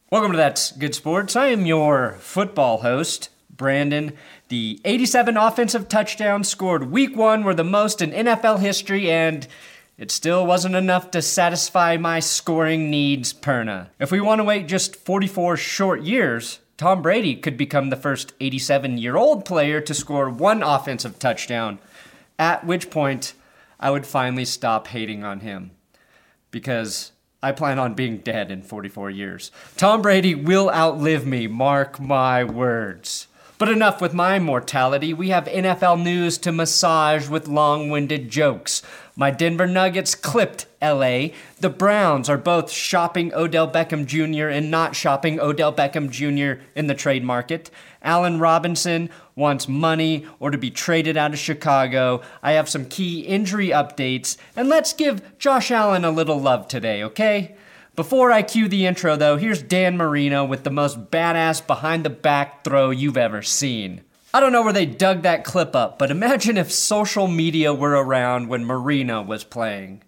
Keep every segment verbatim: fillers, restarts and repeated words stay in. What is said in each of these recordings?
Welcome to That's Good Sports. I am your football host, Brandon. The eighty-seven offensive touchdowns scored week one were the most in N F L history, and it still wasn't enough to satisfy my scoring needs, Perna. If we want to wait just forty-four short years, Tom Brady could become the first eighty-seven-year-old player to score one offensive touchdown, at which point I would finally stop hating on him. Because I plan on being dead in forty-four years. Tom Brady will outlive me, mark my words. But enough with my mortality. We have N F L news to massage with long-winded jokes. My Denver Nuggets clipped L A. The Browns are both shopping Odell Beckham Junior and not shopping Odell Beckham Junior in the trade market. Allen Robinson wants money or to be traded out of Chicago. I have some key injury updates, and let's give Josh Allen a little love today, okay? Before I cue the intro, though, here's Dan Marino with the most badass behind-the-back throw you've ever seen. I don't know where they dug that clip up, but imagine if social media were around when Marino was playing.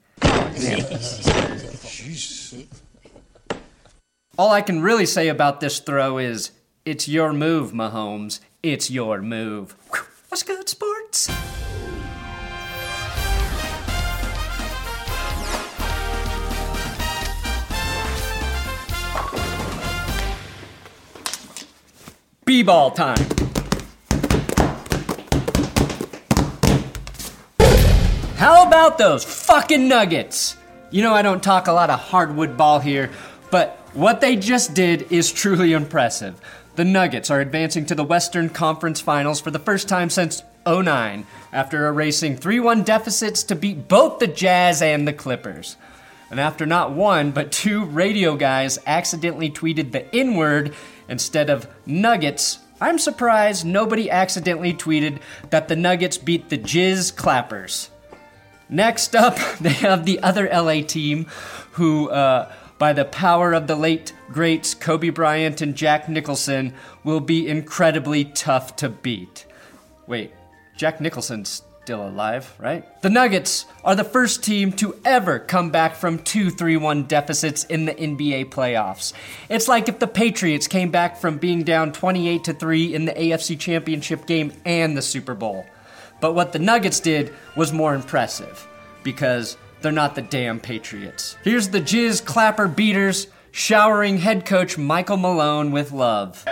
All I can really say about this throw is, it's your move, Mahomes. It's your move. What's good, sports? B-ball time. How about those fucking Nuggets? You know I don't talk a lot of hardwood ball here, but what they just did is truly impressive. The Nuggets are advancing to the Western Conference Finals for the first time since oh nine, after erasing three one deficits to beat both the Jazz and the Clippers. And after not one, but two radio guys accidentally tweeted the N-word instead of Nuggets, I'm surprised nobody accidentally tweeted that the Nuggets beat the Jizz Clappers. Next up, they have the other L A team who, uh, by the power of the late greats Kobe Bryant and Jack Nicholson, will be incredibly tough to beat. Wait, Jack Nicholson's still alive, right? The Nuggets are the first team to ever come back from two three one deficits in the N B A playoffs. It's like if the Patriots came back from being down twenty-eight to three in the A F C Championship game and the Super Bowl. But what the Nuggets did was more impressive, because they're not the damn Patriots. Here's the Jizz Clapper Beaters showering head coach Michael Malone with love.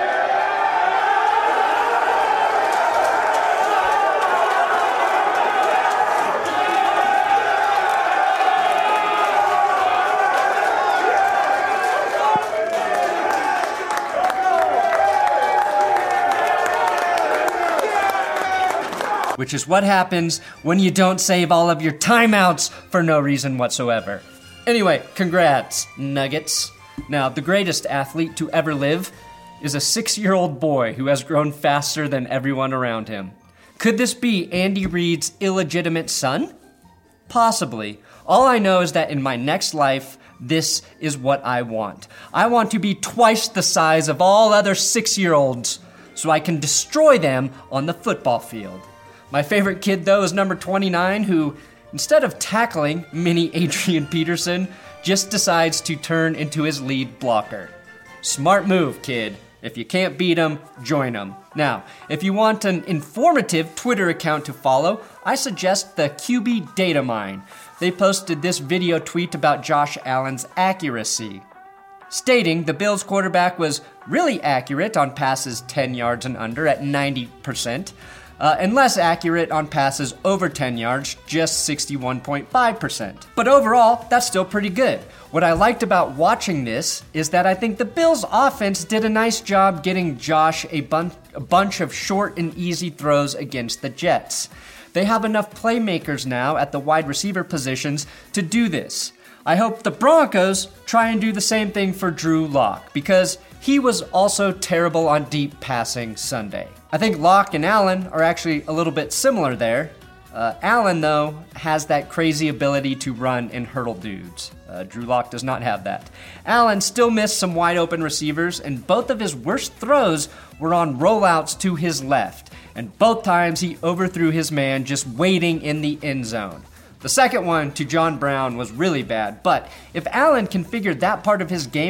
Which is what happens when you don't save all of your timeouts for no reason whatsoever. Anyway, congrats, Nuggets. Now, the greatest athlete to ever live is a six-year-old boy who has grown faster than everyone around him. Could this be Andy Reid's illegitimate son? Possibly. All I know is that in my next life, this is what I want. I want to be twice the size of all other six-year-olds so I can destroy them on the football field. My favorite kid, though, is number twenty-nine, who, instead of tackling mini Adrian Peterson, just decides to turn into his lead blocker. Smart move, kid. If you can't beat him, join him. Now, if you want an informative Twitter account to follow, I suggest the Q B Data Mine. They posted this video tweet about Josh Allen's accuracy, stating the Bills quarterback was really accurate on passes ten yards and under at ninety percent. Uh, and less accurate on passes over ten yards, just sixty-one point five percent. But overall, that's still pretty good. What I liked about watching this is that I think the Bills' offense did a nice job getting Josh a, bun- a bunch of short and easy throws against the Jets. They have enough playmakers now at the wide receiver positions to do this. I hope the Broncos try and do the same thing for Drew Lock, because he was also terrible on deep passing Sunday. I think Lock and Allen are actually a little bit similar there. Uh, Allen, though, has that crazy ability to run and hurdle dudes. Uh, Drew Lock does not have that. Allen still missed some wide open receivers, and both of his worst throws were on rollouts to his left, and both times he overthrew his man just waiting in the end zone. The second one to John Brown was really bad, but if Allen can figure that part of his game out,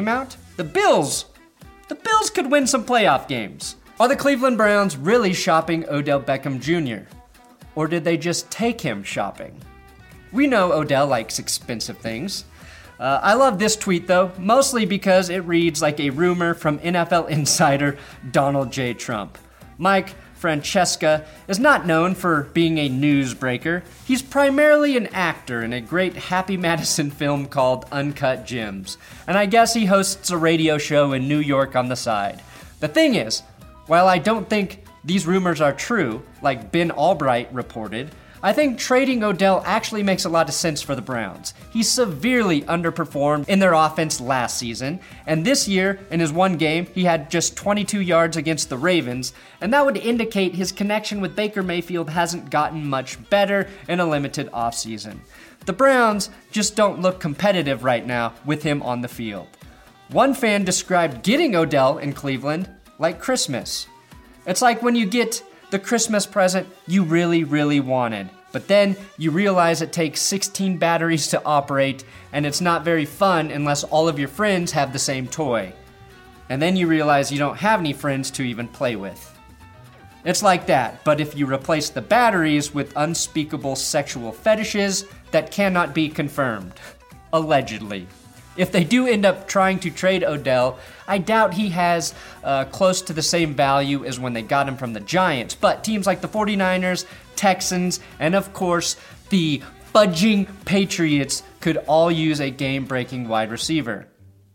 The Bills. The Bills could win some playoff games. Are the Cleveland Browns really shopping Odell Beckham Junior? Or did they just take him shopping? We know Odell likes expensive things. Uh, I love this tweet though, mostly because it reads like a rumor from N F L insider Donald J. Trump. Mike Francesca is not known for being a newsbreaker. He's primarily an actor in a great Happy Madison film called Uncut Gems. And I guess he hosts a radio show in New York on the side. The thing is, while I don't think these rumors are true, like Ben Albright reported, I think trading Odell actually makes a lot of sense for the Browns. He severely underperformed in their offense last season, and this year, in his one game, he had just twenty-two yards against the Ravens, and that would indicate his connection with Baker Mayfield hasn't gotten much better in a limited offseason. The Browns just don't look competitive right now with him on the field. One fan described getting Odell in Cleveland like Christmas. It's like when you get the Christmas present you really, really wanted, but then you realize it takes sixteen batteries to operate, and it's not very fun unless all of your friends have the same toy. And then you realize you don't have any friends to even play with. It's like that, but if you replace the batteries with unspeakable sexual fetishes that cannot be confirmed. Allegedly. If they do end up trying to trade Odell, I doubt he has uh, close to the same value as when they got him from the Giants. But teams like the forty-niners, Texans, and of course, the fudging Patriots could all use a game-breaking wide receiver.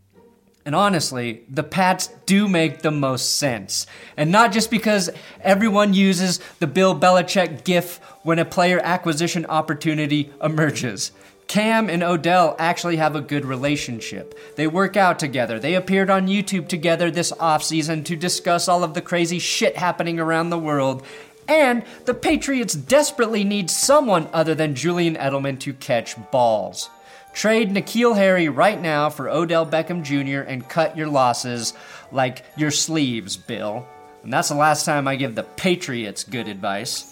And honestly, the Pats do make the most sense. And not just because everyone uses the Bill Belichick gif when a player acquisition opportunity emerges. Cam and Odell actually have a good relationship. They work out together. They appeared on YouTube together this offseason to discuss all of the crazy shit happening around the world. And the Patriots desperately need someone other than Julian Edelman to catch balls. Trade N'Keal Harry right now for Odell Beckham Junior and cut your losses like your sleeves, Bill. And that's the last time I give the Patriots good advice.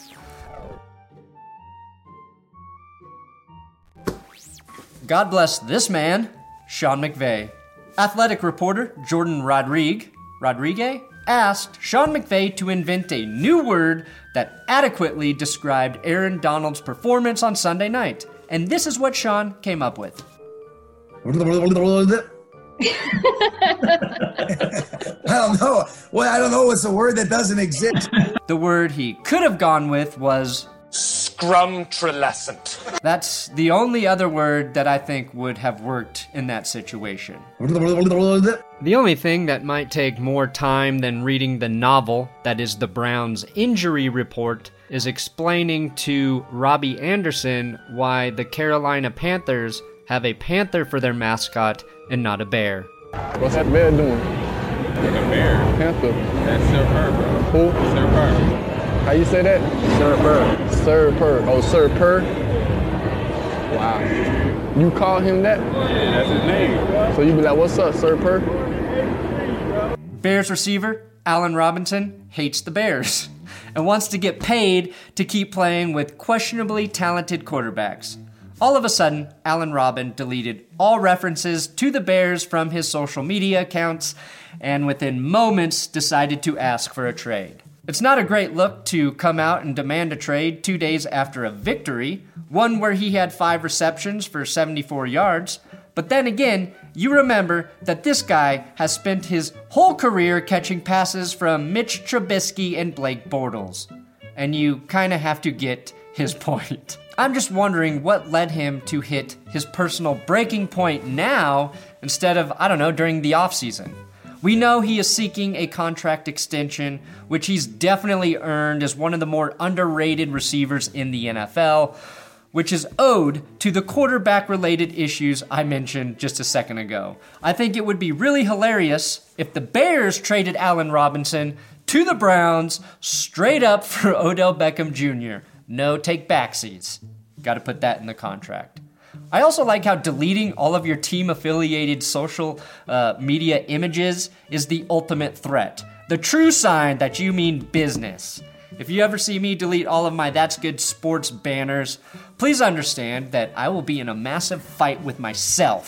God bless this man, Sean McVay. Athletic reporter Jordan Rodrigue, Rodriguez asked Sean McVay to invent a new word that adequately described Aaron Donald's performance on Sunday night. And this is what Sean came up with. I don't know. Well, I don't know. It's a word that doesn't exist. The word he could have gone with was scrumtrilescent. That's the only other word that I think would have worked in that situation. The only thing that might take more time than reading the novel, that is the Browns' injury report, is explaining to Robbie Anderson why the Carolina Panthers have a panther for their mascot and not a bear. What's that bear doing? Like a bear. Panther. That's Sir Purr, bro. Who? Sir Purr. How you say that? Sir Purr. Sir Purr. Oh, Sir Purr? Wow. You call him that? Yeah, that's his name. So you be like, what's up, Sir Purr? Bears receiver Allen Robinson hates the Bears and wants to get paid to keep playing with questionably talented quarterbacks. All of a sudden, Allen Robin deleted all references to the Bears from his social media accounts and within moments decided to ask for a trade. It's not a great look to come out and demand a trade two days after a victory, one where he had five receptions for seventy-four yards. But then again, you remember that this guy has spent his whole career catching passes from Mitch Trubisky and Blake Bortles. And you kind of have to get his point. I'm just wondering what led him to hit his personal breaking point now instead of, I don't know, during the offseason. We know he is seeking a contract extension, which he's definitely earned as one of the more underrated receivers in the N F L, which is owed to the quarterback-related issues I mentioned just a second ago. I think it would be really hilarious if the Bears traded Allen Robinson to the Browns straight up for Odell Beckham Junior No take backsies. Got to put that in the contract. I also like how deleting all of your team-affiliated social uh, media images is the ultimate threat. The true sign that you mean business. If you ever see me delete all of my That's Good Sports banners, please understand that I will be in a massive fight with myself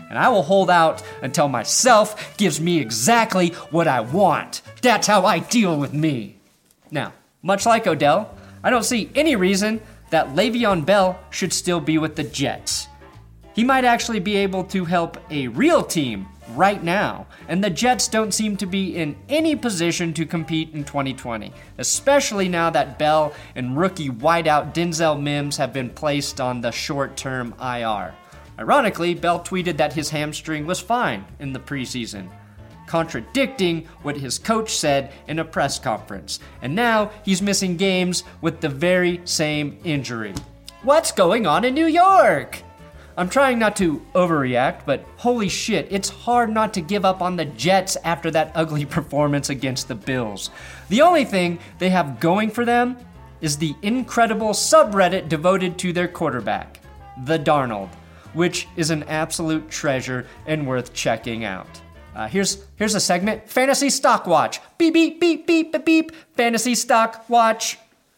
and I will hold out until myself gives me exactly what I want. That's how I deal with me. Now, much like Odell, I don't see any reason that Le'Veon Bell should still be with the Jets. He might actually be able to help a real team right now, and the Jets don't seem to be in any position to compete in twenty twenty, especially now that Bell and rookie wideout Denzel Mims have been placed on the short-term I R. Ironically, Bell tweeted that his hamstring was fine in the preseason, contradicting what his coach said in a press conference, and now he's missing games with the very same injury. What's going on in New York? I'm trying not to overreact, but holy shit, it's hard not to give up on the Jets after that ugly performance against the Bills. The only thing they have going for them is the incredible subreddit devoted to their quarterback, The Darnold, which is an absolute treasure and worth checking out. Uh, here's here's a segment, Fantasy Stock Watch. Beep, beep, beep, beep, beep, beep, Fantasy Stock Watch.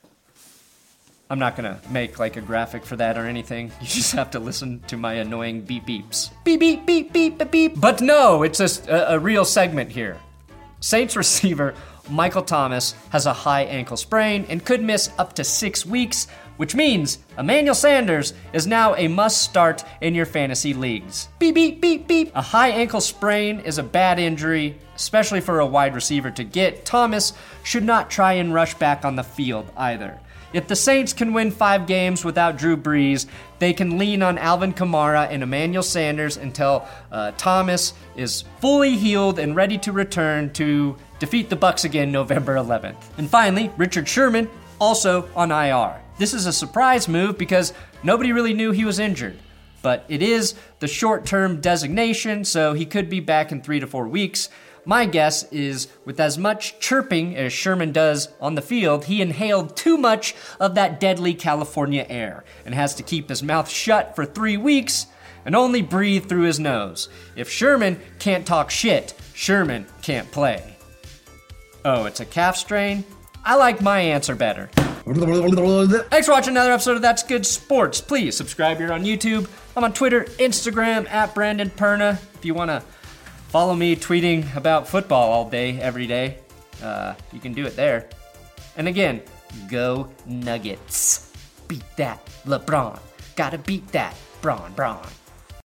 I'm not gonna make like a graphic for that or anything. You just have to listen to my annoying beep beeps. Beep, beep, beep, beep, beep, beep. But no, it's a, a, a real segment here. Saints receiver Michael Thomas has a high ankle sprain and could miss up to six weeks, which means Emmanuel Sanders is now a must-start in your fantasy leagues. Beep, beep, beep, beep. A high ankle sprain is a bad injury, especially for a wide receiver to get. Thomas should not try and rush back on the field either. If the Saints can win five games without Drew Brees, they can lean on Alvin Kamara and Emmanuel Sanders until uh, Thomas is fully healed and ready to return to defeat the Bucs again November eleventh. And finally, Richard Sherman, also on I R. This is a surprise move because nobody really knew he was injured. But it is the short-term designation, so he could be back in three to four weeks. My guess is with as much chirping as Sherman does on the field, he inhaled too much of that deadly California air and has to keep his mouth shut for three weeks and only breathe through his nose. If Sherman can't talk shit, Sherman can't play. Oh, it's a calf strain? I like my answer better. Thanks for watching another episode of That's Good Sports. Please subscribe here on YouTube. I'm on Twitter, Instagram, at Brandon Perna. If you want to follow me tweeting about football all day, every day, uh, you can do it there. And again, go Nuggets. Beat that LeBron. Gotta beat that Bron Bron.